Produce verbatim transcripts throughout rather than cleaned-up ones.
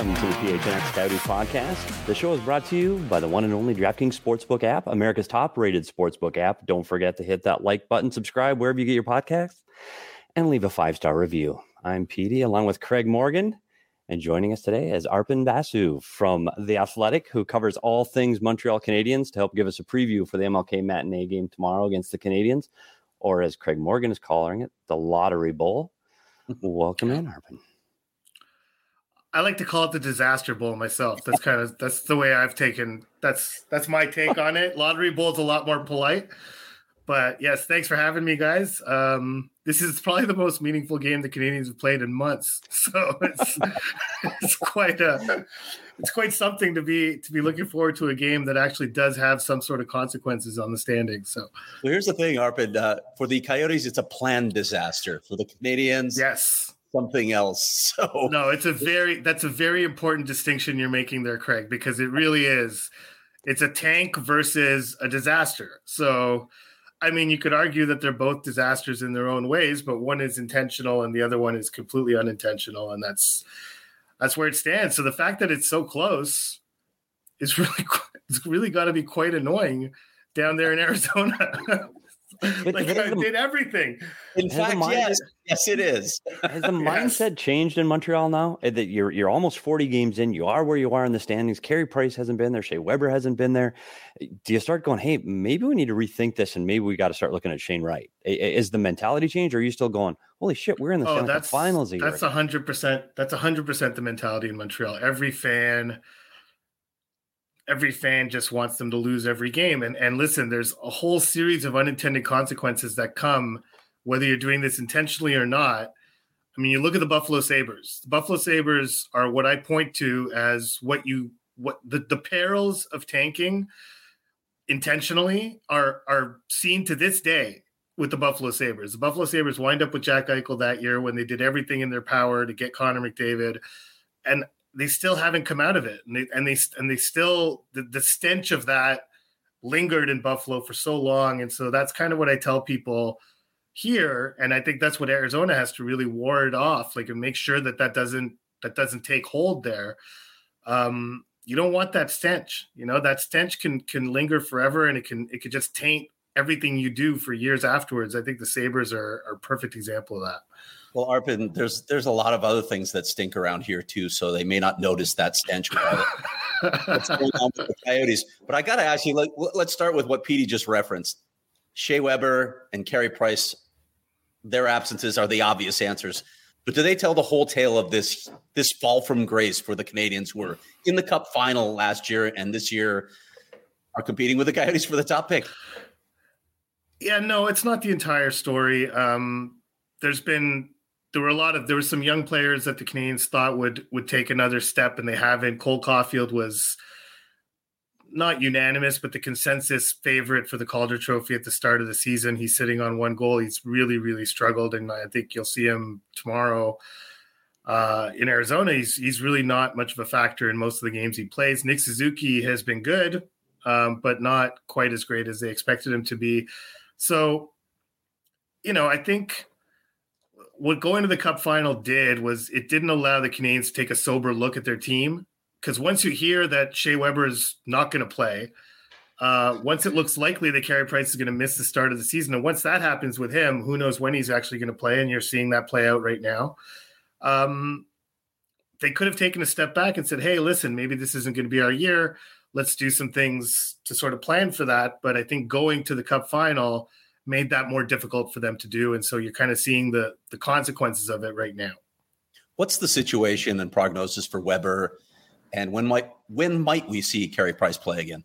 Welcome to the P H N X Coyotes podcast. The show is brought to you by the one and only DraftKings Sportsbook app, America's top-rated sportsbook app. Don't forget to hit that like button, subscribe wherever you get your podcasts, and leave a five-star review. I'm Petey, along with Craig Morgan, and joining us today is Arpon Basu from The Athletic, who covers all things Montreal Canadiens to help give us a preview for the M L K matinee game tomorrow against the Canadiens, or as Craig Morgan is calling it, the Lottery Bowl. Welcome in, Arpon. I like to call it the Disaster Bowl myself. That's kind of that's the way I've taken. That's that's my take on it. Lottery Bowl's a lot more polite, but yes, thanks for having me, guys. Um, this is probably the most meaningful game the Canadiens have played in months, so it's it's quite a it's quite something to be to be looking forward to a game that actually does have some sort of consequences on the standings. So, well, here's the thing, Arpon. Uh, for the Coyotes, it's a planned disaster. For the Canadiens, yes. Something else. So no, it's a very that's a very important distinction you're making there, Craig, because it really is. It's a tank versus a disaster. So, I mean, you could argue that they're both disasters in their own ways, but one is intentional and the other one is completely unintentional, and that's that's where it stands. So the fact that it's so close is really it's really got to be quite annoying down there in Arizona. Like I the, did everything. In fact, mind, yes, yes, it is. Has the mindset yes. changed in Montreal now? That you're you're almost forty games in. You are where you are in the standings. Carey Price hasn't been there. Shea Weber hasn't been there. Do you start going, hey, maybe we need to rethink this, and maybe we got to start looking at Shane Wright? Is the mentality changed, or are you still going, holy shit, we're in the oh, that's, finals? That's a hundred percent. That's a hundred percent the mentality in Montreal. Every fan. Every fan just wants them to lose every game. And and listen, there's a whole series of unintended consequences that come, whether you're doing this intentionally or not. I mean, you look at the Buffalo Sabres. The Buffalo Sabres are what I point to as what you what the, the perils of tanking intentionally are are seen to this day with the Buffalo Sabres. The Buffalo Sabres wind up with Jack Eichel that year when they did everything in their power to get Connor McDavid. And they still haven't come out of it. And they, and they, and they still, the, the stench of that lingered in Buffalo for so long. And so that's kind of what I tell people here. And I think that's what Arizona has to really ward off, like, and make sure that that doesn't, that doesn't take hold there. Um, you don't want that stench, you know, that stench can, can linger forever, and it can, it could just taint everything you do for years afterwards. I think the Sabres are, are a perfect example of that. Well, Arpon, there's there's a lot of other things that stink around here too, so they may not notice that stench what's going on with the Coyotes. But I got to ask you, let, let's start with what Petey just referenced. Shea Weber and Carey Price, their absences are the obvious answers. But do they tell the whole tale of this this fall from grace for the Canadiens, who were in the Cup final last year and this year are competing with the Coyotes for the top pick? Yeah, no, it's not the entire story. Um, there's been There were a lot of, there were some young players that the Canadiens thought would, would take another step, and they haven't. Cole Caulfield was not unanimous, but the consensus favorite for the Calder Trophy at the start of the season. He's sitting on one goal. He's really, really struggled, and I think you'll see him tomorrow uh, in Arizona. He's he's really not much of a factor in most of the games he plays. Nick Suzuki has been good, um, but not quite as great as they expected him to be. So, you know, I think what going to the Cup final did was it didn't allow the Canadiens to take a sober look at their team, because once you hear that Shea Weber is not going to play, uh, once it looks likely that Carey Price is going to miss the start of the season, and once that happens with him, who knows when he's actually going to play, and you're seeing that play out right now. Um, they could have taken a step back and said, hey, listen, maybe this isn't going to be our year. Let's do some things to sort of plan for that. But I think going to the Cup final made that more difficult for them to do. And so you're kind of seeing the the consequences of it right now. What's the situation and prognosis for Weber? And when might when might we see Carey Price play again?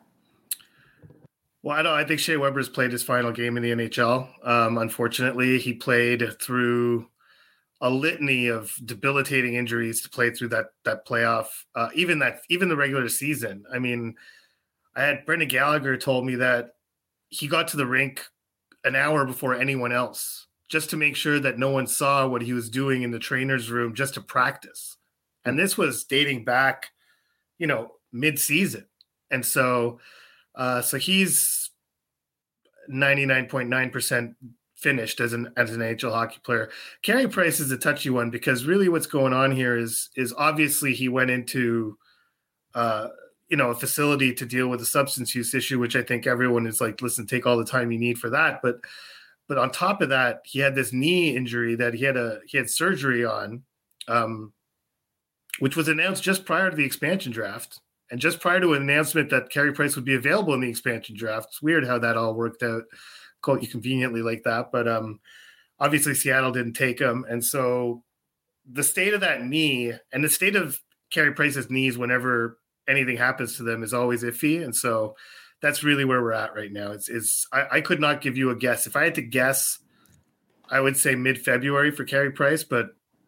Well, I don't I think Shea Weber's played his final game in the N H L. Um, unfortunately, he played through a litany of debilitating injuries to play through that that playoff, uh, even that even the regular season. I mean, I had Brendan Gallagher told me that he got to the rink an hour before anyone else, just to make sure that no one saw what he was doing in the trainer's room, just to practice. And this was dating back, you know, mid-season. And so, uh, so he's ninety-nine point nine percent finished as an as an N H L hockey player. Carey Price is a touchy one because really what's going on here is is obviously he went into uh, you know a facility to deal with a substance use issue, which I think everyone is like, listen, take all the time you need for that. But but on top of that, he had this knee injury that he had a he had surgery on, um, which was announced just prior to the expansion draft. And just prior to an announcement that Carey Price would be available in the expansion draft. It's weird how that all worked out quite conveniently like that. But um, obviously Seattle didn't take him. And so the state of that knee and the state of Carey Price's knees whenever anything happens to them is always iffy. And so that's really where we're at right now. It's, it's I, I could not give you a guess. If I had to guess, I would say mid-February for Carey Price, but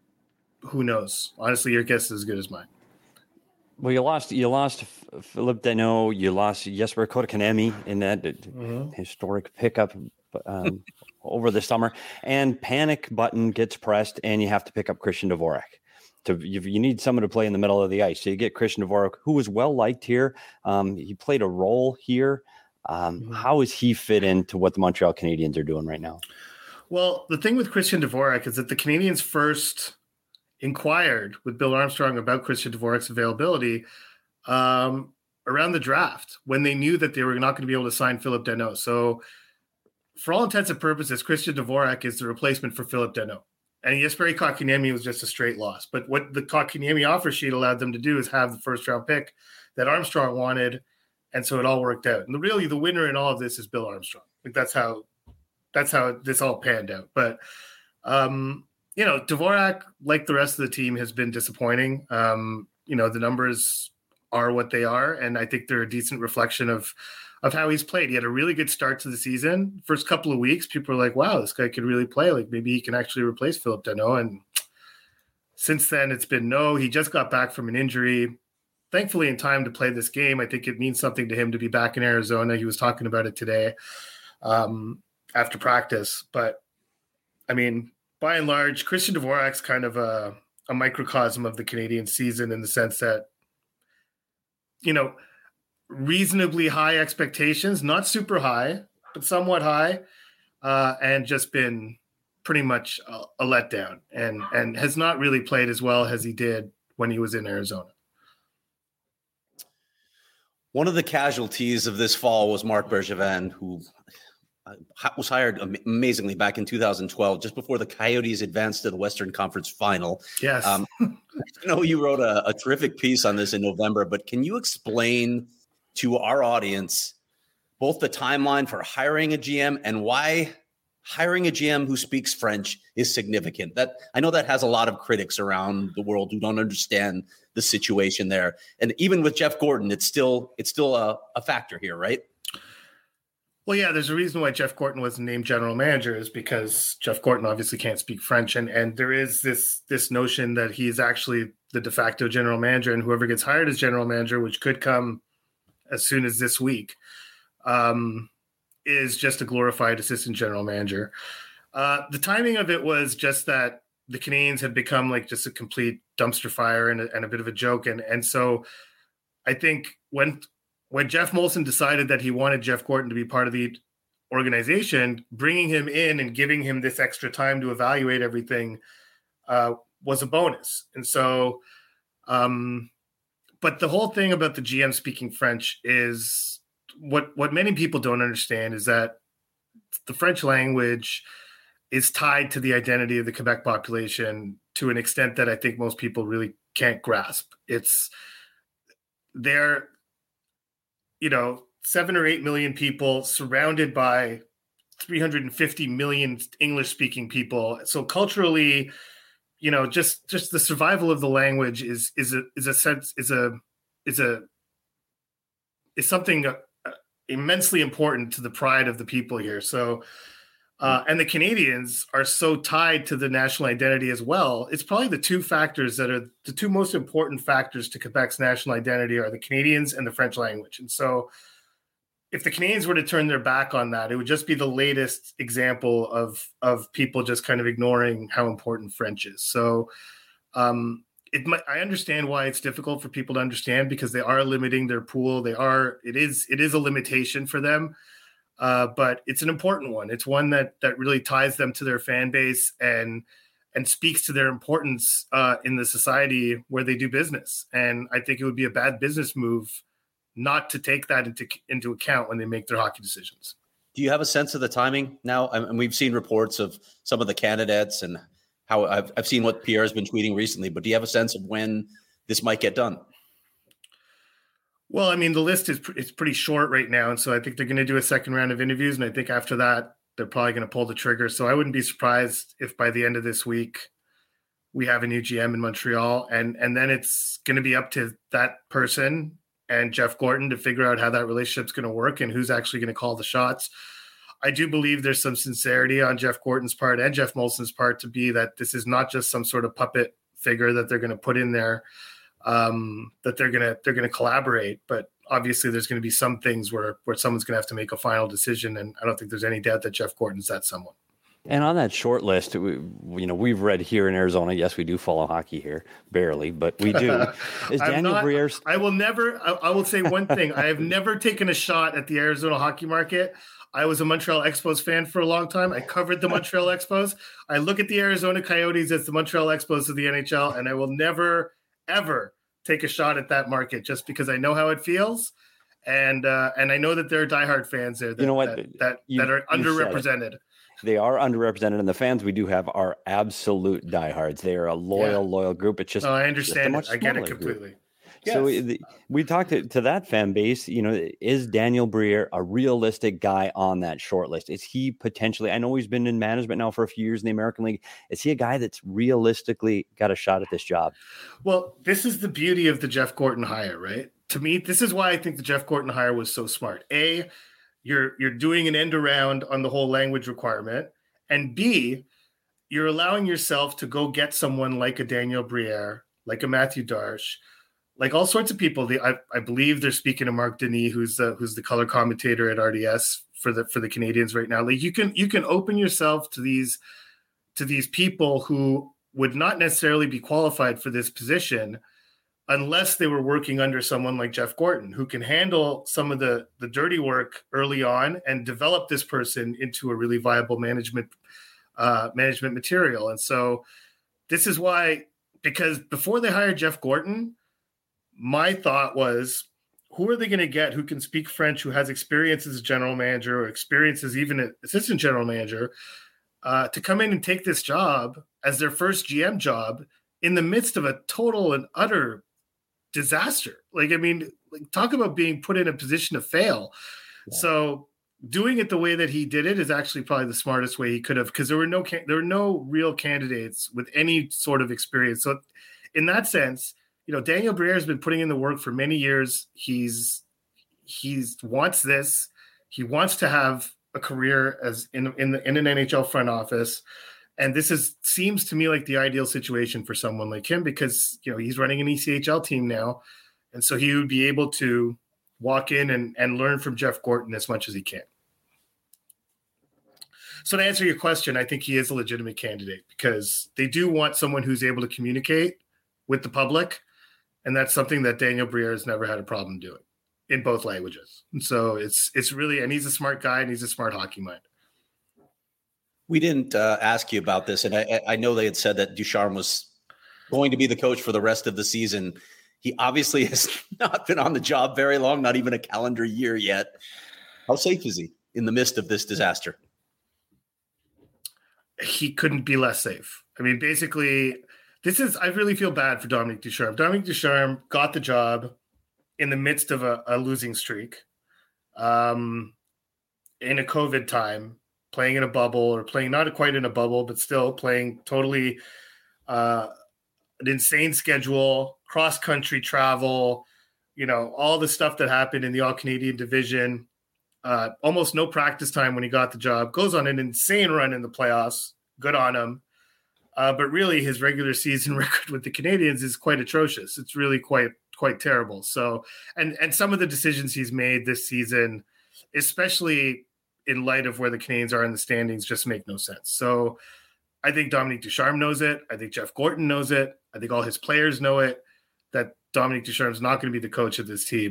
who knows? Honestly, your guess is as good as mine. Well, you lost you lost Philip Danault, you lost Jesper Kotkaniemi in that mm-hmm. historic pickup um, over the summer, and panic button gets pressed, and you have to pick up Christian Dvorak. To you, you need someone to play in the middle of the ice, so you get Christian Dvorak, who was well liked here. Um, he played a role here. Um, mm-hmm. How does he fit into what the Montreal Canadiens are doing right now? Well, the thing with Christian Dvorak is that the Canadiens first inquired with Bill Armstrong about Christian Dvorak's availability um, around the draft when they knew that they were not going to be able to sign Philip Danault. So for all intents and purposes, Christian Dvorak is the replacement for Philip Danault. And Jesperi Kotkaniemi was just a straight loss. But what the Kotkaniemi offer sheet allowed them to do is have the first round pick that Armstrong wanted. And so it all worked out. And the, really the winner in all of this is Bill Armstrong. Like that's how, that's how this all panned out. But, um, you know, Dvorak, like the rest of the team, has been disappointing. Um, you know, the numbers are what they are, and I think they're a decent reflection of of how he's played. He had a really good start to the season. First couple of weeks, people were like, wow, this guy could really play. Like, maybe he can actually replace Philip Danault. And since then, it's been no. He just got back from an injury, thankfully in time to play this game. I think it means something to him to be back in Arizona. He was talking about it today um, after practice. But, I mean, by and large, Christian Dvorak's kind of a, a microcosm of the Canadian season in the sense that, you know, reasonably high expectations, not super high, but somewhat high, uh, and just been pretty much a, a letdown and, and has not really played as well as he did when he was in Arizona. One of the casualties of this fall was Marc Bergevin, who was hired amazingly back in two thousand twelve, just before the Coyotes advanced to the Western Conference Final. Yes. Um, I know you wrote a, a terrific piece on this in November, but can you explain to our audience both the timeline for hiring a G M and why hiring a G M who speaks French is significant? That I know that has a lot of critics around the world who don't understand the situation there. And even with Jeff Gorton, it's still it's still a, a factor here, right? Well, yeah, there's a reason why Jeff Gorton wasn't named general manager is because Jeff Gorton obviously can't speak French. And, and there is this this notion that he's actually the de facto general manager, and whoever gets hired as general manager, which could come as soon as this week, um, is just a glorified assistant general manager. Uh, the timing of it was just that the Canadiens had become like just a complete dumpster fire and a, and a bit of a joke. And, and so I think when when Jeff Molson decided that he wanted Jeff Gorton to be part of the organization, bringing him in and giving him this extra time to evaluate everything uh, was a bonus. And so, um, but the whole thing about the G M speaking French is what, what many people don't understand is that the French language is tied to the identity of the Quebec population to an extent that I think most people really can't grasp. It's they're, you know, seven or eight million people surrounded by three hundred fifty million English speaking people. So culturally, you know, just, just the survival of the language is, is a, is a sense, is a, is a, is something uh, immensely important to the pride of the people here. So, uh, and the Canadians are so tied to the national identity as well. It's probably the two factors that are the two most important factors to Quebec's national identity are the Canadians and the French language. And so if the Canadians were to turn their back on that, it would just be the latest example of, of people just kind of ignoring how important French is. So um, it might, I understand why it's difficult for people to understand because they are limiting their pool. They are, it is, it is a limitation for them. Uh, but it's an important one. It's one that that really ties them to their fan base and and speaks to their importance uh, in the society where they do business. And I think it would be a bad business move not to take that into into account when they make their hockey decisions. Do you have a sense of the timing now? And we've seen reports of some of the candidates and how I've, I've seen what Pierre has been tweeting recently, but do you have a sense of when this might get done? Well, I mean, the list is it's pretty short right now. And so I think they're going to do a second round of interviews. And I think after that, they're probably going to pull the trigger. So I wouldn't be surprised if by the end of this week, we have a new G M in Montreal. And, and then it's going to be up to that person and Jeff Gorton to figure out how that relationship's going to work and who's actually going to call the shots. I do believe there's some sincerity on Jeff Gorton's part and Jeff Molson's part to be that this is not just some sort of puppet figure that they're going to put in there. Um, that they're gonna they're gonna collaborate, but obviously there's going to be some things where where someone's going to have to make a final decision, and I don't think there's any doubt that Jeff Gorton's that someone. And on that short list, we, you know, we've read here in Arizona. Yes, we do follow hockey here, barely, but we do. Is Daniel not, Briere? I will never. I, I will say one thing: I have never taken a shot at the Arizona hockey market. I was a Montreal Expos fan for a long time. I covered the Montreal Expos. I look at the Arizona Coyotes as the Montreal Expos of the N H L, and I will never, ever take a shot at that market just because I know how it feels. And uh, and I know that there are diehard fans there that, you know what? that, that, you, that are underrepresented. They are underrepresented, and the fans we do have are absolute diehards. They are a loyal, yeah. loyal group. It's just, oh, I understand it. I get it completely. Group. Yes. So we, we talked to, to that fan base, you know, is Daniel Briere a realistic guy on that short list? Is he potentially, I know he's been in management now for a few years in the American League. Is he a guy that's realistically got a shot at this job? Well, this is the beauty of the Jeff Gorton hire, right? To me, this is why I think the Jeff Gorton hire was so smart. A, you're you're doing an end around on the whole language requirement. And B, you're allowing yourself to go get someone like a Daniel Briere, like a Matthew Darche, like all sorts of people. They, I, I believe they're speaking to Mark Denis, who's the who's the color commentator at R D S for the for the Canadians right now. Like you can you can open yourself to these to these people who would not necessarily be qualified for this position unless they were working under someone like Jeff Gorton, who can handle some of the the dirty work early on and develop this person into a really viable management uh, management material. And so this is why, because before they hired Jeff Gorton, my thought was, who are they going to get who can speak French, who has experience as a general manager or experience as even an assistant general manager uh, to come in and take this job as their first G M job in the midst of a total and utter disaster. Like, I mean, like, talk about being put in a position to fail. Yeah. So doing it the way that he did it is actually probably the smartest way he could have, because there were no there were no real candidates with any sort of experience. So in that sense, you know, Daniel Briere has been putting in the work for many years. He's he's wants this. He wants to have a career as in in, the, in an N H L front office, and this is seems to me like the ideal situation for someone like him, because you know he's running an E C H L team now, and so he would be able to walk in and, and learn from Jeff Gorton as much as he can. So to answer your question, I think he is a legitimate candidate because they do want someone who's able to communicate with the public. And that's something that Daniel Briere has never had a problem doing in both languages. And so it's it's really, and he's a smart guy and he's a smart hockey mind. We didn't uh, ask you about this, and I, I know they had said that Ducharme was going to be the coach for the rest of the season. He obviously has not been on the job very long, not even a calendar year yet. How safe is he in the midst of this disaster? He couldn't be less safe. I mean, basically, this is, I really feel bad for Dominique Ducharme. Dominique Ducharme got the job in the midst of a, a losing streak, um, in a COVID time, playing in a bubble or playing not quite in a bubble, but still playing totally uh, an insane schedule, cross-country travel, you know, all the stuff that happened in the All-Canadian division, uh, almost no practice time when he got the job, goes on an insane run in the playoffs. Good on him. Uh, but really, his regular season record with the Canadians is quite atrocious. It's really quite quite terrible. So, and and some of the decisions he's made this season, especially in light of where the Canadians are in the standings, just make no sense. So, I think Dominique Ducharme knows it. I think Jeff Gorton knows it. I think all his players know it. That Dominique Ducharme is not going to be the coach of this team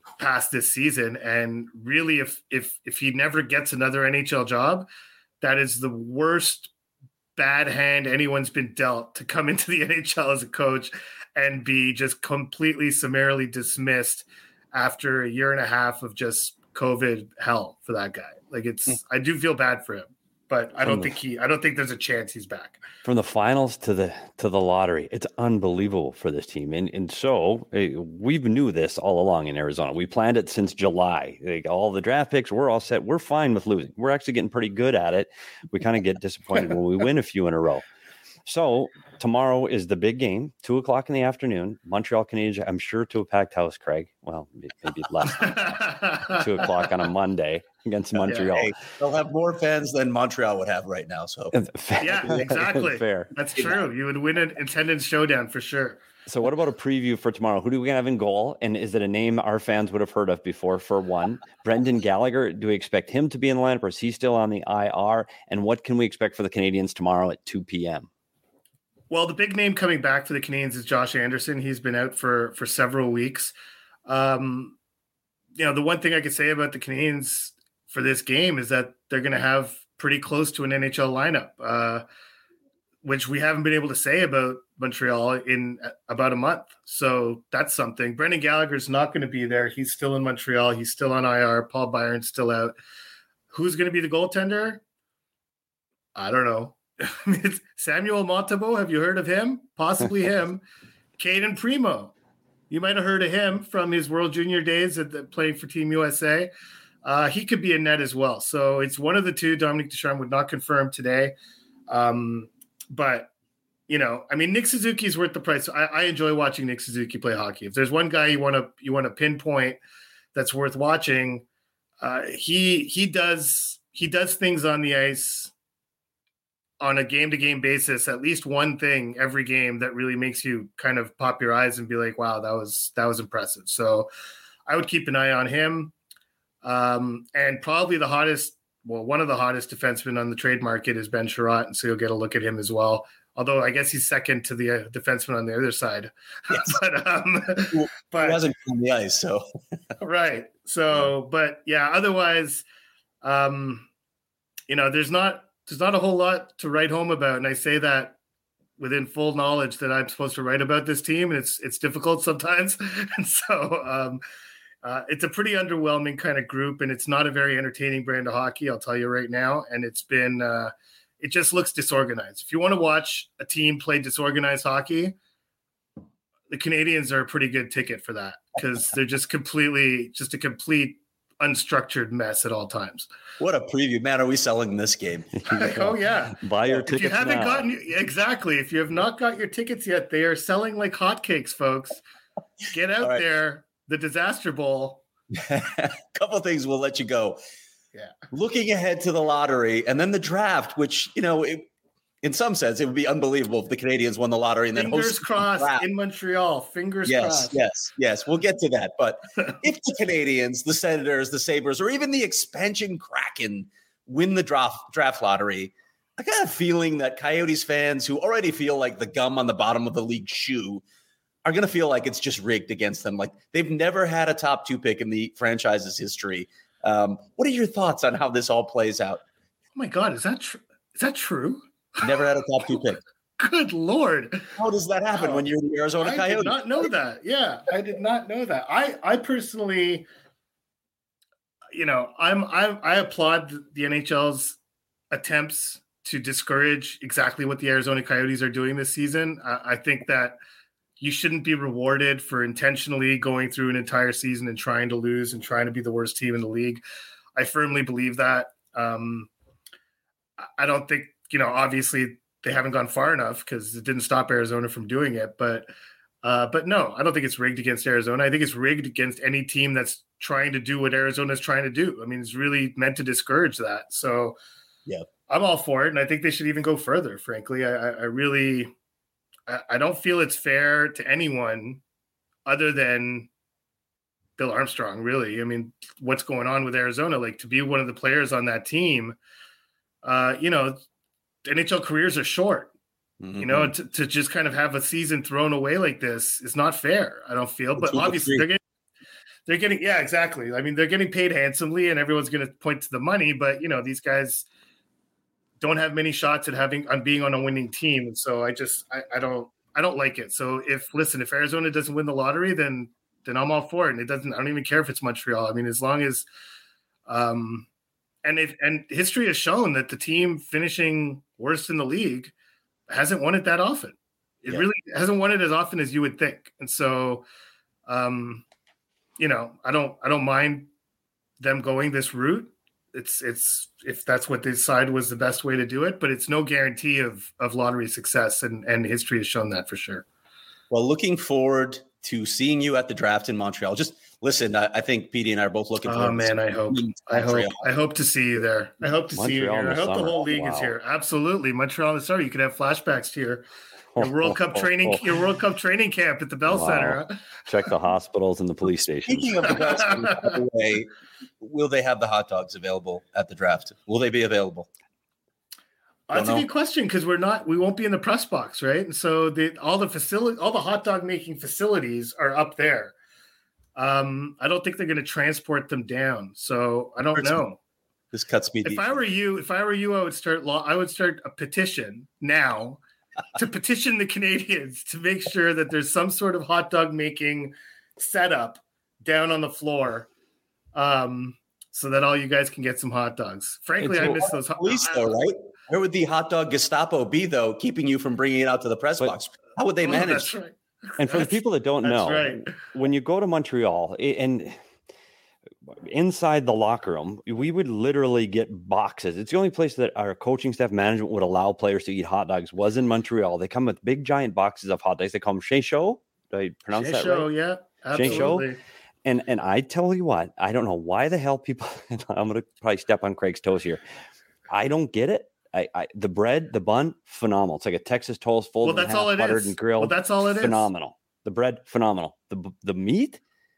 past this season. And really, if if if he never gets another N H L job, that is the worst bad hand anyone's been dealt, to come into the N H L as a coach and be just completely summarily dismissed after a year and a half of just COVID hell for that guy. Like it's, mm. I do feel bad for him, but I don't think he, I don't think there's a chance he's back. From the finals to the to the lottery, it's unbelievable for this team. And and so uh, we knew this all along in Arizona. We planned it since July. Like, all the draft picks, we're all set. We're fine with losing. We're actually getting pretty good at it. We kind of get disappointed when we win a few in a row. So tomorrow is the big game, two o'clock in the afternoon. Montreal Canadiens, I'm sure, to a packed house, Craig. Well, maybe less than two o'clock on a Monday against Montreal. Hey, they'll have more fans than Montreal would have right now. So yeah, exactly. Fair. That's true. You would win an attendance showdown for sure. So what about a preview for tomorrow? Who do we have in goal? And is it a name our fans would have heard of before? For one, Brendan Gallagher, do we expect him to be in the lineup, or is he still on the I R? And what can we expect for the Canadiens tomorrow at two p.m.? Well, the big name coming back for the Canadiens is Josh Anderson. He's been out for, for several weeks. Um, you know, the one thing I could say about the Canadiens for this game is that they're going to have pretty close to an N H L lineup, uh, which we haven't been able to say about Montreal in about a month. So that's something. Brendan Gallagher's not going to be there. He's still in Montreal. He's still on I R. Paul Byron's still out. Who's going to be the goaltender? I don't know. It's Samuel Montembeault. Have you heard of him? Possibly him. Caden Primo. You might have heard of him from his World Junior days at the, playing for Team U S A. Uh, he could be in net as well. So it's one of the two. Dominic Ducharme would not confirm today. Um, but, you know, I mean, Nick Suzuki is worth the price. I, I enjoy watching Nick Suzuki play hockey. If there's one guy you want to you want to pinpoint that's worth watching, uh, he he does he does things on the ice on a game-to-game basis, at least one thing every game that really makes you kind of pop your eyes and be like, wow, that was that was impressive. So I would keep an eye on him. Um, and probably the hottest, well, one of the hottest defensemen on the trade market is Ben Chiarot, and so you'll get a look at him as well. Although I guess he's second to the uh, defenseman on the other side. Yes. but um, well, but he hasn't been on the ice, so right. So, but yeah, otherwise, um, you know, there's not there's not a whole lot to write home about, and I say that within full knowledge that I'm supposed to write about this team, and it's it's difficult sometimes, and so um, uh, it's a pretty underwhelming kind of group, and it's not a very entertaining brand of hockey, I'll tell you right now, and it's been. Uh, It just looks disorganized. If you want to watch a team play disorganized hockey, the Canadiens are a pretty good ticket for that, because they're just completely, just a complete unstructured mess at all times. What a preview, man! Are we selling this game? Oh yeah, buy your if tickets. If you haven't now. gotten exactly, if you have not got your tickets yet, they are selling like hotcakes, folks. Get out right. there, the Disaster Bowl. A couple of things, we'll let you go. Yeah. Looking ahead to the lottery and then the draft, which, you know, it, in some sense, it would be unbelievable if the Canadiens won the lottery and Fingers then hosted crossed in Montreal. Fingers yes, crossed. Yes, yes, we'll get to that. But if the Canadiens, the Senators, the Sabres, or even the expansion Kraken win the draft, draft lottery, I got a feeling that Coyotes fans who already feel like the gum on the bottom of the league shoe are going to feel like it's just rigged against them. Like they've never had a top two pick in the franchise's history. Um, what are your thoughts on how this all plays out? Oh my God, is that true? Is that true? Never had a top two pick. Good Lord. How does that happen oh, when you're the Arizona I Coyotes? I did not know that. Yeah, I did not know that. I, I personally, you know, I'm, I, I applaud the N H L's attempts to discourage exactly what the Arizona Coyotes are doing this season. I, I think that you shouldn't be rewarded for intentionally going through an entire season and trying to lose and trying to be the worst team in the league. I firmly believe that. Um, I don't think, you know, obviously they haven't gone far enough because it didn't stop Arizona from doing it. But, uh, but no, I don't think it's rigged against Arizona. I think it's rigged against any team that's trying to do what Arizona is trying to do. I mean, it's really meant to discourage that. So yeah, I'm all for it. And I think they should even go further, frankly. I, I really – I don't feel it's fair to anyone other than Bill Armstrong, really. I mean, what's going on with Arizona? Like, to be one of the players on that team, uh, you know, N H L careers are short. Mm-hmm. You know, to, to just kind of have a season thrown away like this is not fair, I don't feel. But obviously they're getting, they're getting, yeah, exactly. I mean, they're getting paid handsomely, and everyone's going to point to the money. But you know, these guys don't have many shots at having on being on a winning team, and so I just, I, I don't, I don't like it. So if listen, if Arizona doesn't win the lottery, then then I'm all for it. And it doesn't. I don't even care if it's Montreal. I mean, as long as, um, and if and history has shown that the team finishing worst in the league hasn't won it that often. It yeah. really hasn't won it as often as you would think. And so, um, you know, I don't, I don't mind them going this route. It's, it's, if that's what they decide was the best way to do it, but it's no guarantee of, of lottery success. And, and history has shown that for sure. Well, looking forward to seeing you at the draft in Montreal. Just listen, I, I think Petey and I are both looking forward. Oh man, I hope, I hope, I hope to see you there. I hope to Montreal see you here. I hope summer. the whole league wow. is here. Absolutely. Montreal in the summer. You could have flashbacks here. Your World Cup training, your World Cup training camp at the Bell wow. Center. Huh? Check the hospitals and the police stations. Speaking of the Bell Center, by the way, will they have the hot dogs available at the draft? Will they be available? Don't That's know. a good question because we're not, we won't be in the press box, right? And so the all the facility, all the hot dog making facilities are up there. Um, I don't think they're going to transport them down, so I don't know. This cuts me deep. If I were you, if I were you, I would start law. I would start a petition now. to petition the Canadians to make sure that there's some sort of hot dog making setup down on the floor, um, so that all you guys can get some hot dogs. Frankly, it's I miss those hot police, though, right? Where would the hot dog Gestapo be, though, keeping you from bringing it out to the press but, box? How would they manage? Oh, that's right. And for the people that don't know, right. when you go to Montreal and inside the locker room, we would literally get boxes. It's the only place that our coaching staff management would allow players to eat hot dogs was in Montreal. They come with big giant boxes of hot dogs. They call them Chez Chaud. Do I pronounce that Chaud, right? Yeah, absolutely. And and I tell you what, I don't know why the hell people. I'm going to probably step on Craig's toes here. I don't get it. I, I the bread, the bun, phenomenal. It's like a Texas toast folded well, that's in half, all it buttered is. and grilled. Well, that's all it phenomenal. is. Phenomenal. The bread, phenomenal. The the meat,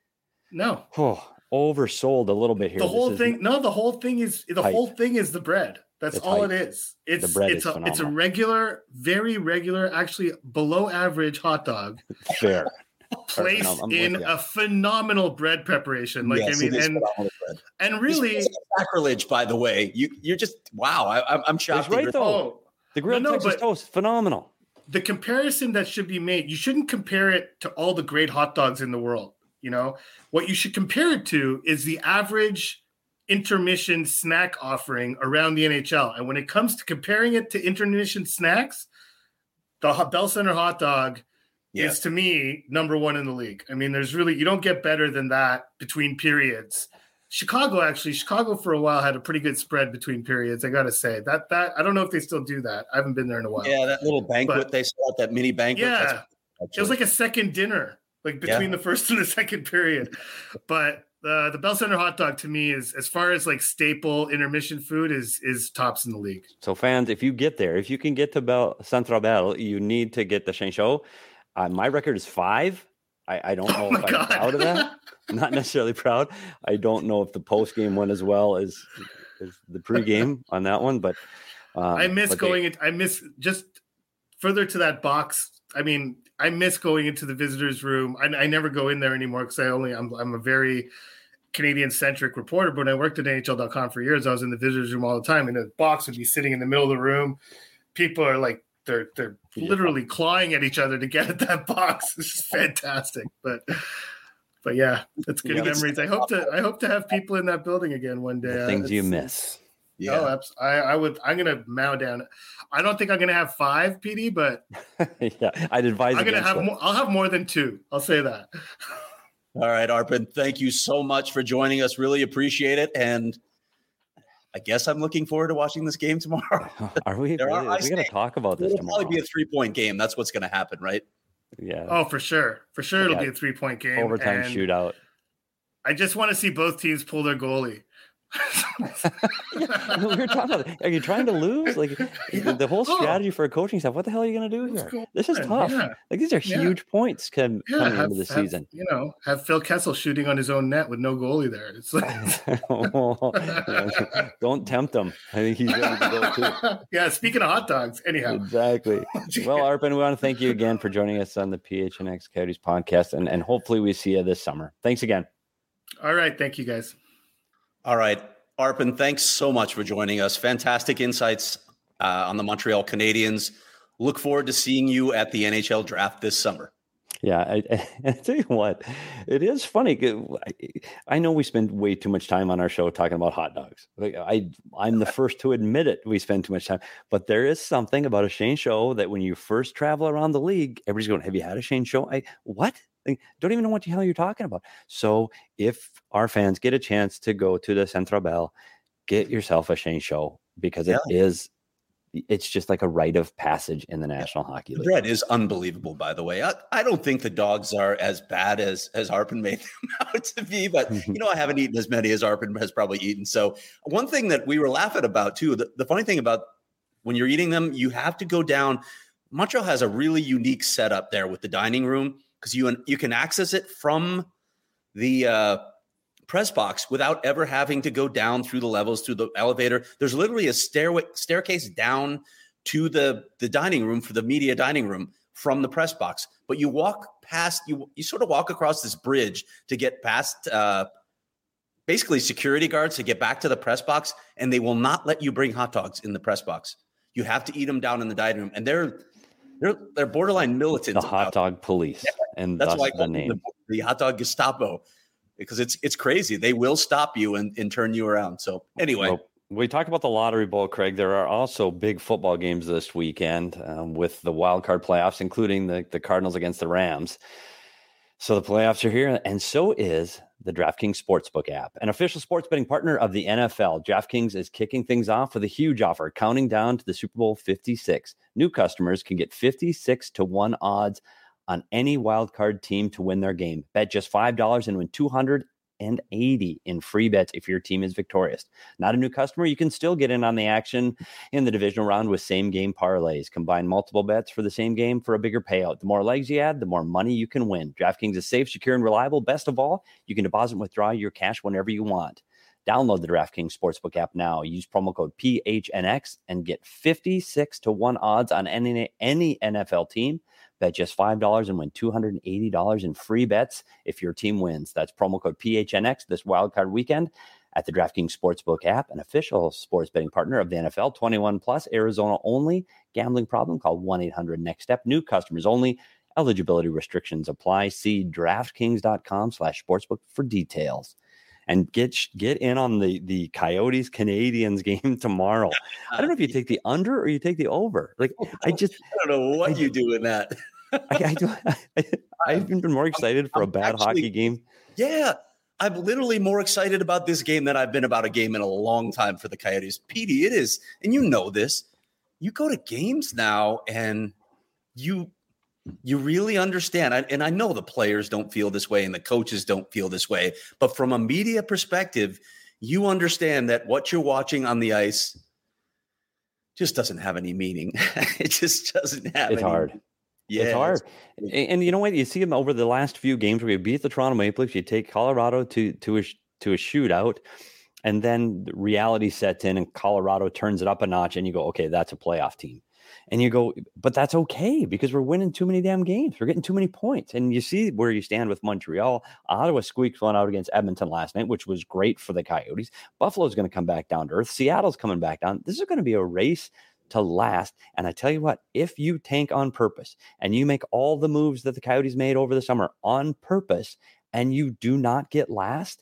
no. Oh, oversold a little bit here. The whole thing, no, the whole thing is the hype. whole thing is the bread. That's it's all hype. it is. It's the bread it's is a phenomenal. It's a regular, very regular, actually below average hot dog. Fair. Placed in a phenomenal bread preparation. Like yes, I mean, and and really sacrilege. By the way, you you're just wow. I, I'm shocked. Right though, oh, the grilled no, no, Texas toast, phenomenal. The comparison that should be made, you shouldn't compare it to all the great hot dogs in the world. You know, what you should compare it to is the average intermission snack offering around the N H L. And when it comes to comparing it to intermission snacks, the Bell Center hot dog yeah. is, to me, number one in the league. I mean, there's really, you don't get better than that between periods. Chicago, actually, Chicago for a while had a pretty good spread between periods. I got to say that, that, I don't know if they still do that. I haven't been there in a while. Yeah, that little banquet but, they saw, that mini banquet. Yeah, it was like a second dinner. Like between yeah. the first and the second period. But uh, the Bell Center hot dog to me is, as far as like staple intermission food, is is tops in the league. So fans, if you get there, if you can get to Bell Centre Bell, you need to get the Chez Chaud. Uh, my record is five. I, I don't know oh if I'm God. proud of that. I'm not necessarily proud. I don't know if the post game went as well as, as the pregame on that one, but um, I miss but going. They, it, I miss just further to that box. I mean, I miss going into the visitors' room. I, I never go in there anymore because I only I'm I'm a very Canadian-centric reporter. But when I worked at N H L dot com for years, I was in the visitors' room all the time, and the box would be sitting in the middle of the room. People are like they're they're literally yeah. clawing at each other to get at that box. It's just fantastic. But but yeah, that's good yeah, memories. I hope to I hope to have people in that building again one day. The things uh, you miss. Yeah, oh, I, I would. I'm gonna mow down. I don't think I'm gonna have five, P D, but yeah, I'd advise. I'm gonna have. That. More, I'll have more than two. I'll say that. All right, Arpon. Thank you so much for joining us. Really appreciate it, and I guess I'm looking forward to watching this game tomorrow. Are we? There are, we got to talk about this It'll tomorrow. Probably be a three point game. That's what's going to happen, right? Yeah. Oh, for sure. For sure, it'll yeah. be a three point game. Overtime and shootout. I just want to see both teams pull their goalie. yeah, we were talking about, are you trying to lose? Like yeah. the whole strategy oh. for a coaching staff. What the hell are you going to do here? Cool. This is tough. Yeah. Like these are yeah. huge points come, yeah, coming have, into the have, season. You know, have Phil Kessel shooting on his own net with no goalie there. It's like oh, don't tempt him. I think he's ready to go too. Yeah. Speaking of hot dogs, anyhow. Exactly. Well, Arpon, we want to thank you again for joining us on the P H N X Coyotes podcast, and and hopefully we see you this summer. Thanks again. All right. Thank you, guys. All right. Arpon, thanks so much for joining us. Fantastic insights uh, on the Montreal Canadiens. Look forward to seeing you at the N H L draft this summer. Yeah, I, I, I tell you what, it is funny. I, I know we spend way too much time on our show talking about hot dogs. Like I, I'm the first to admit it. We spend too much time, but there is something about a Shane Show that when you first travel around the league, everybody's going, "Have you had a Shane Show?" I what? Like, don't even know what the hell you're talking about. So if our fans get a chance to go to the Centre Bell, get yourself a Shane Show because it yeah. is. It's just like a rite of passage in the National yeah. Hockey League. The bread is unbelievable, by the way. I, I don't think the dogs are as bad as as Arpon made them out to be, but you know, I haven't eaten as many as Arpon has probably eaten. So one thing that we were laughing about too, the, the funny thing about when you're eating them, you have to go down. Montreal has a really unique setup there with the dining room because you you can access it from the uh, press box without ever having to go down through the levels, through the elevator. There's literally a stairway staircase down to the, the dining room for the media dining room from the press box. But you walk past, you you sort of walk across this bridge to get past uh, basically security guards to get back to the press box, and they will not let you bring hot dogs in the press box. You have to eat them down in the dining room. And they're they're they're borderline militant. The hot dog police. Yeah, and that's that's why the name. The, the hot dog Gestapo. Because it's it's crazy. They will stop you and, and turn you around. So anyway. Well, we talked about the Lottery Bowl, Craig. There are also big football games this weekend um, with the wild card playoffs, including the, the Cardinals against the Rams. So the playoffs are here, and so is the DraftKings Sportsbook app, an official sports betting partner of the N F L. DraftKings is kicking things off with a huge offer, counting down to the Super Bowl fifty-six. New customers can get fifty-six to one odds on any wildcard team to win their game. Bet just five dollars and win two hundred eighty in free bets if your team is victorious. Not a new customer? You can still get in on the action in the divisional round with same game parlays. Combine multiple bets for the same game for a bigger payout. The more legs you add, the more money you can win. DraftKings is safe, secure, and reliable. Best of all, you can deposit and withdraw your cash whenever you want. Download the DraftKings Sportsbook app now. Use promo code P H N X and get fifty-six to one odds on any, any N F L team. Bet just five dollars and win two hundred eighty dollars in free bets if your team wins. That's promo code P H N X this wildcard weekend at the DraftKings Sportsbook app, an official sports betting partner of the N F L. twenty-one plus, Arizona only. Gambling problem? Call one eight hundred next step. New customers only. Eligibility restrictions apply. See DraftKings.com slash sportsbook for details. And get get in on the, the Coyotes Canadiens game tomorrow. I don't know if you take the under or you take the over. Like I just I don't know what I, you do in that. I, I do. I, I've been more excited for I'm, a bad actually, hockey game. Yeah, I'm literally more excited about this game than I've been about a game in a long time for the Coyotes. Petey, it is, and you know this. You go to games now, and you. You really understand. I, and I know the players don't feel this way and the coaches don't feel this way. But from a media perspective, you understand that what you're watching on the ice just doesn't have any meaning. It just doesn't have It's any hard. Meaning. Yeah, it's hard. And, and you know what? You see them over the last few games where you beat the Toronto Maple Leafs, you take Colorado to, to, a, to a shootout, and then reality sets in and Colorado turns it up a notch and you go, okay, that's a playoff team. And you go, but that's okay because we're winning too many damn games. We're getting too many points. And you see where you stand with Montreal. Ottawa squeaked one out against Edmonton last night, which was great for the Coyotes. Buffalo's going to come back down to earth. Seattle's coming back down. This is going to be a race to last. And I tell you what, if you tank on purpose and you make all the moves that the Coyotes made over the summer on purpose and you do not get last,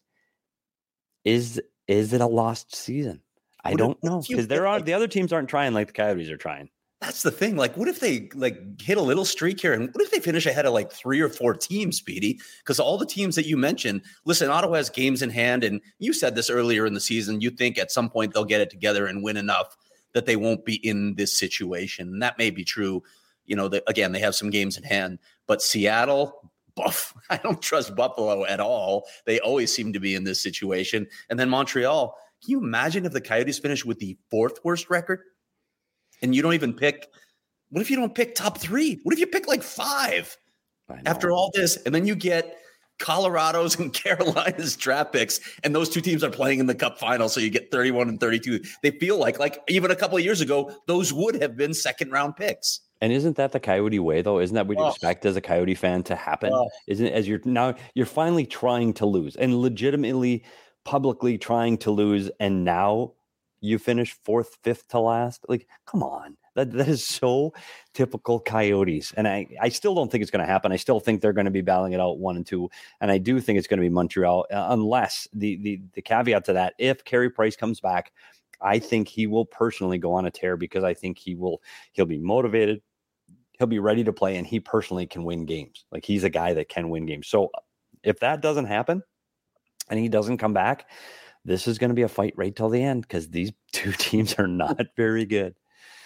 is, is it a lost season? I what don't if, know because there are the other teams aren't trying like the Coyotes are trying. That's the thing. Like, what if they like hit a little streak here? And what if they finish ahead of like three or four teams, Speedy? Because all the teams that you mentioned, listen, Ottawa has games in hand. And you said this earlier in the season. You think at some point they'll get it together and win enough that they won't be in this situation. And that may be true. You know, that again, they have some games in hand. But Seattle, buff. I don't trust Buffalo at all. They always seem to be in this situation. And then Montreal. Can you imagine if the Coyotes finish with the fourth worst record? And you don't even pick, what if you don't pick top three? What if you pick like five after all this? And then you get Colorado's and Carolina's draft picks, and those two teams are playing in the Cup final, so you get thirty-one and thirty-two. They feel like, like even a couple of years ago, those would have been second round picks. And isn't that the Coyote way, though? Isn't that what you Oh. expect as a Coyote fan to happen? Oh. Isn't it, as you're now you're finally trying to lose and legitimately, publicly trying to lose, and now you finish fourth, fifth to last? Like, come on. That that is so typical Coyotes. And I, I still don't think it's going to happen. I still think they're going to be battling it out one and two. And I do think it's going to be Montreal, uh, unless the, the the caveat to that, if Carey Price comes back, I think he will personally go on a tear, because I think he will he'll be motivated, he'll be ready to play, and he personally can win games. Like, he's a guy that can win games. So if that doesn't happen and he doesn't come back, this is going to be a fight right till the end, because these two teams are not very good.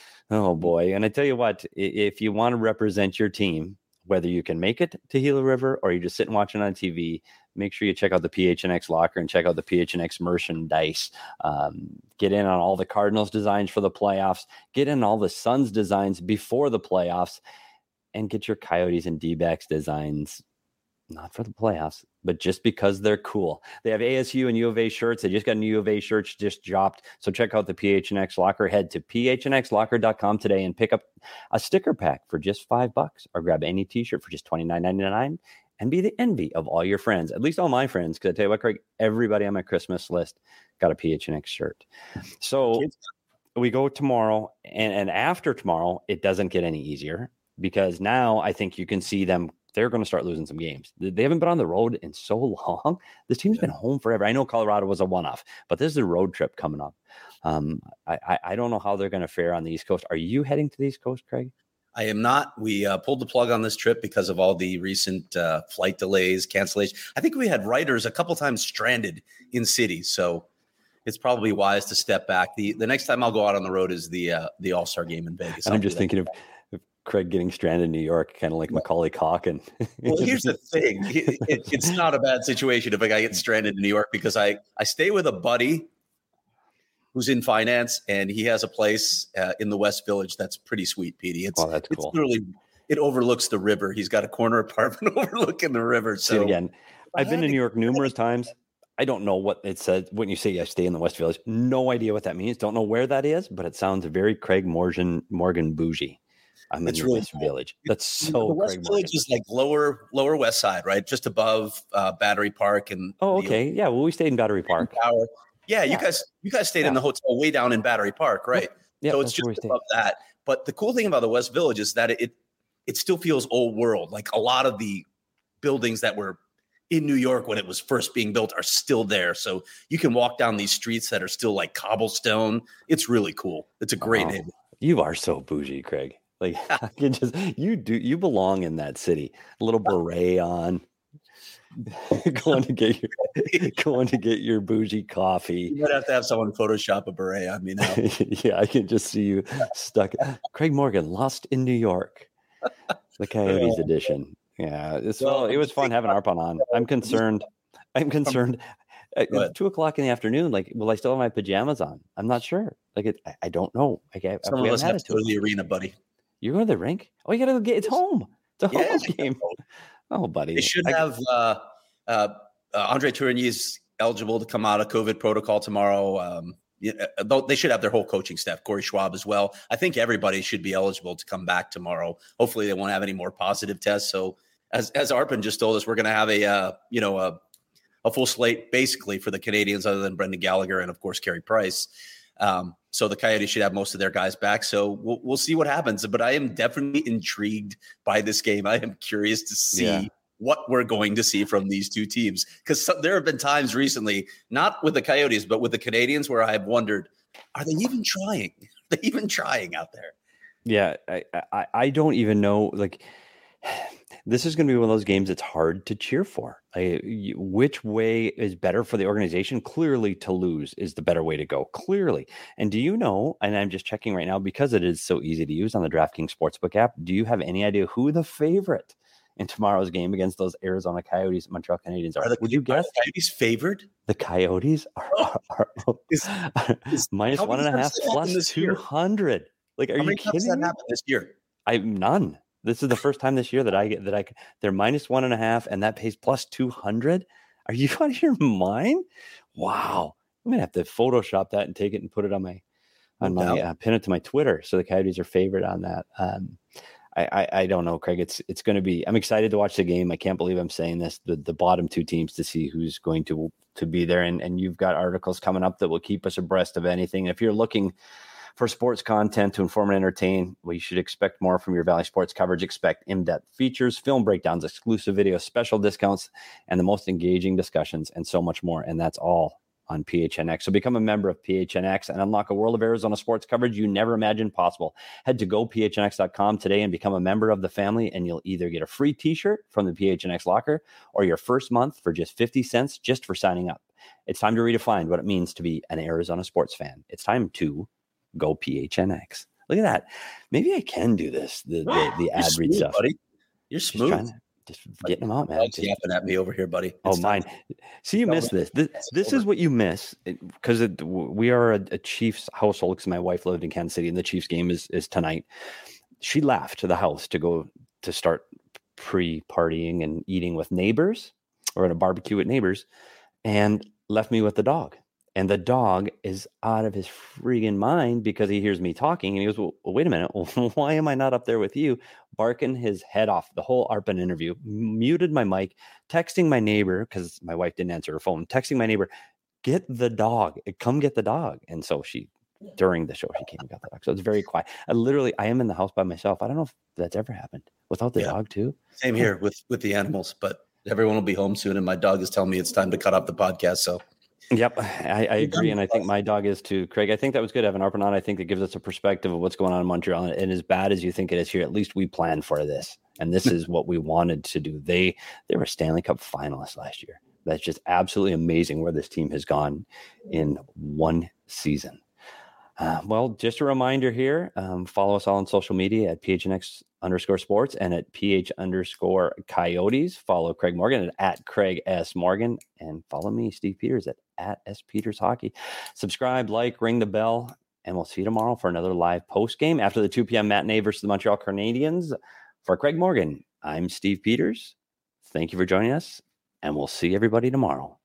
Oh boy. And I tell you what, if you want to represent your team, whether you can make it to Gila River or you just sit and watch it on T V, make sure you check out the P H N X locker and check out the P H N X merchandise. Um, get in on all the Cardinals designs for the playoffs, get in all the Suns designs before the playoffs, and get your Coyotes and D-backs designs, not for the playoffs, but just because they're cool. They have A S U and U of A shirts. They just got new U of A shirts just dropped. So check out the P H N X locker. Head to P H N X locker dot com today and pick up a sticker pack for just five bucks, or grab any t-shirt for just twenty-nine ninety-nine and be the envy of all your friends, at least all my friends. Because I tell you what, Craig, everybody on my Christmas list got a P H N X shirt. So we go tomorrow, and, and after tomorrow, it doesn't get any easier, because now I think you can see them. They're going to start losing some games. They haven't been on the road in so long. This team's been home forever. I know Colorado was a one-off, but this is a road trip coming up. Um, I, I, I don't know how they're going to fare on the East Coast. Are you heading to the East Coast, Craig? I am not. We uh, pulled the plug on this trip because of all the recent uh, flight delays, cancellations. I think we had writers a couple times stranded in cities, so it's probably wise to step back. The the next time I'll go out on the road is the uh, the All-Star game in Vegas. And I'm just thinking of Craig getting stranded in New York, kind of like Macaulay Culkin. Well, here's the thing. It, it, it's not a bad situation if a guy gets stranded in New York, because I, I stay with a buddy who's in finance, and he has a place uh, in the West Village that's pretty sweet, Petey. It's, oh, that's cool. It's literally, it overlooks the river. He's got a corner apartment overlooking the river. So See, again, I've been to New York numerous times. I don't know what it says when you say I stay in the West Village. No idea what that means. Don't know where that is, but it sounds very Craig Morgan, Morgan bougie. I'm in it's the really West cool. Village. That's so the West Craig Village Morgan. is like lower lower West Side, right? Just above uh, Battery Park and oh, okay, yeah. Well, we stayed in Battery Park. Tower. Yeah, Yeah. you guys you guys stayed Yeah. in the hotel way down in Battery Park, right? Yeah, so it's that's where we just stayed. above that. But the cool thing about the West Village is that it it still feels old world. Like a lot of the buildings that were in New York when it was first being built are still there. So you can walk down these streets that are still like cobblestone. It's really cool. It's a great Oh, neighborhood. You are so bougie, Craig. Like I can just you do you belong in that city. A little beret on, going to get your going to get your bougie coffee. You might have to have someone Photoshop a beret on me now. Yeah, I can just see you stuck. Craig Morgan, Lost in New York, the Coyotes edition. Yeah, it's well, it was fun having Arpon on. I'm concerned. I'm concerned. At two o'clock in the afternoon, like, will I still have my pajamas on? I'm not sure. Like, it, I, I don't know. Like, I, Some we of us haven't have had to it go to the arena, buddy. You're going to the rink? Oh, you got to get. It's home. It's a home Yeah. game. Oh, buddy. They should I- have uh, uh, uh, Andre Tourigny's eligible to come out of COVID protocol tomorrow. Um, yeah, though they should have their whole coaching staff, Corey Schwab as well. I think everybody should be eligible to come back tomorrow. Hopefully, they won't have any more positive tests. So, as as Arpon just told us, we're going to have a uh, you know a, a full slate basically for the Canadians, other than Brendan Gallagher and of course Carey Price. Um, so the Coyotes should have most of their guys back. So we'll, we'll see what happens. But I am definitely intrigued by this game. I am curious to see Yeah. what we're going to see from these two teams, because there have been times recently, not with the Coyotes, but with the Canadians, where I've wondered, are they even trying? Are they even trying out there? Yeah, I, I, I don't even know. Like, this is going to be one of those games that's hard to cheer for. I, you, which way is better for the organization? Clearly, to lose is the better way to go. Clearly. And do you know, and I'm just checking right now because it is so easy to use on the DraftKings Sportsbook app, do you have any idea who the favorite in tomorrow's game against those Arizona Coyotes, Montreal Canadiens are? Are the, Would you guess? Are the Coyotes favored? The Coyotes are, are, are, Is- is- minus how one many and a times half has that happened plus this year? two hundred. Like, are How you many times has kidding that me? happened this year? I none. This is the first time this year that I get that I they're minus one and a half, and that pays plus two hundred. Are you out of your mind? Wow. I'm gonna have to Photoshop that and take it and put it on my on No my uh, pin it to my Twitter. So the Coyotes are favored on that. Um, I, I I don't know, Craig. It's it's going to be. I'm excited to watch the game. I can't believe I'm saying this. The the bottom two teams to see who's going to to be there, and and you've got articles coming up that will keep us abreast of anything. If you're looking for sports content to inform and entertain, well, you should expect more from your Valley Sports coverage. Expect in-depth features, film breakdowns, exclusive videos, special discounts, and the most engaging discussions, and so much more. And that's all on P H N X. So become a member of P H N X and unlock a world of Arizona sports coverage you never imagined possible. Head to go P H N X dot com today and become a member of the family, and you'll either get a free t-shirt from the P H N X locker or your first month for just fifty cents just for signing up. It's time to redefine what it means to be an Arizona sports fan. It's time to go P H N X. Look at that. Maybe I can do this, the the, the ad read stuff. Buddy. You're smooth. Just, to, just getting them out, man. Just yapping at me over here, buddy. It's oh, mine. See, you missed this. This, this is what you miss, because we are a, a Chiefs household, because my wife lived in Kansas City, and the Chiefs game is, is tonight. She left to the house to go to start pre-partying and eating with neighbors, or at a barbecue with neighbors, and left me with the dog. And the dog is out of his freaking mind because he hears me talking, and he goes, well, wait a minute. Why am I not up there with you? Barking his head off the whole Arpin interview, muted my mic, texting my neighbor, because my wife didn't answer her phone, texting my neighbor, get the dog, come get the dog. And so she, during the show, she came and got the dog. So it's very quiet. I literally, I am in the house by myself. I don't know if that's ever happened without the yeah. dog too. Same here with, with the animals, but everyone will be home soon. And my dog is telling me it's time to cut off the podcast. So Yep, I, I agree, and I think my dog is too, Craig. I think that was good having Arpin on. I think that gives us a perspective of what's going on in Montreal, and as bad as you think it is here, at least we planned for this, and this is what we wanted to do. They they were Stanley Cup finalists last year. That's just absolutely amazing where this team has gone in one season. Uh, well, just a reminder here, um, follow us all on social media at P H N X underscore sports and at P H underscore Coyotes. Follow Craig Morgan at, at Craig S. Morgan, and follow me, Steve Peters, at, at S. Peters Hockey. Subscribe, like, ring the bell, and we'll see you tomorrow for another live post game after the two p.m. matinee versus the Montreal Canadiens. For Craig Morgan, I'm Steve Peters. Thank you for joining us, and we'll see everybody tomorrow.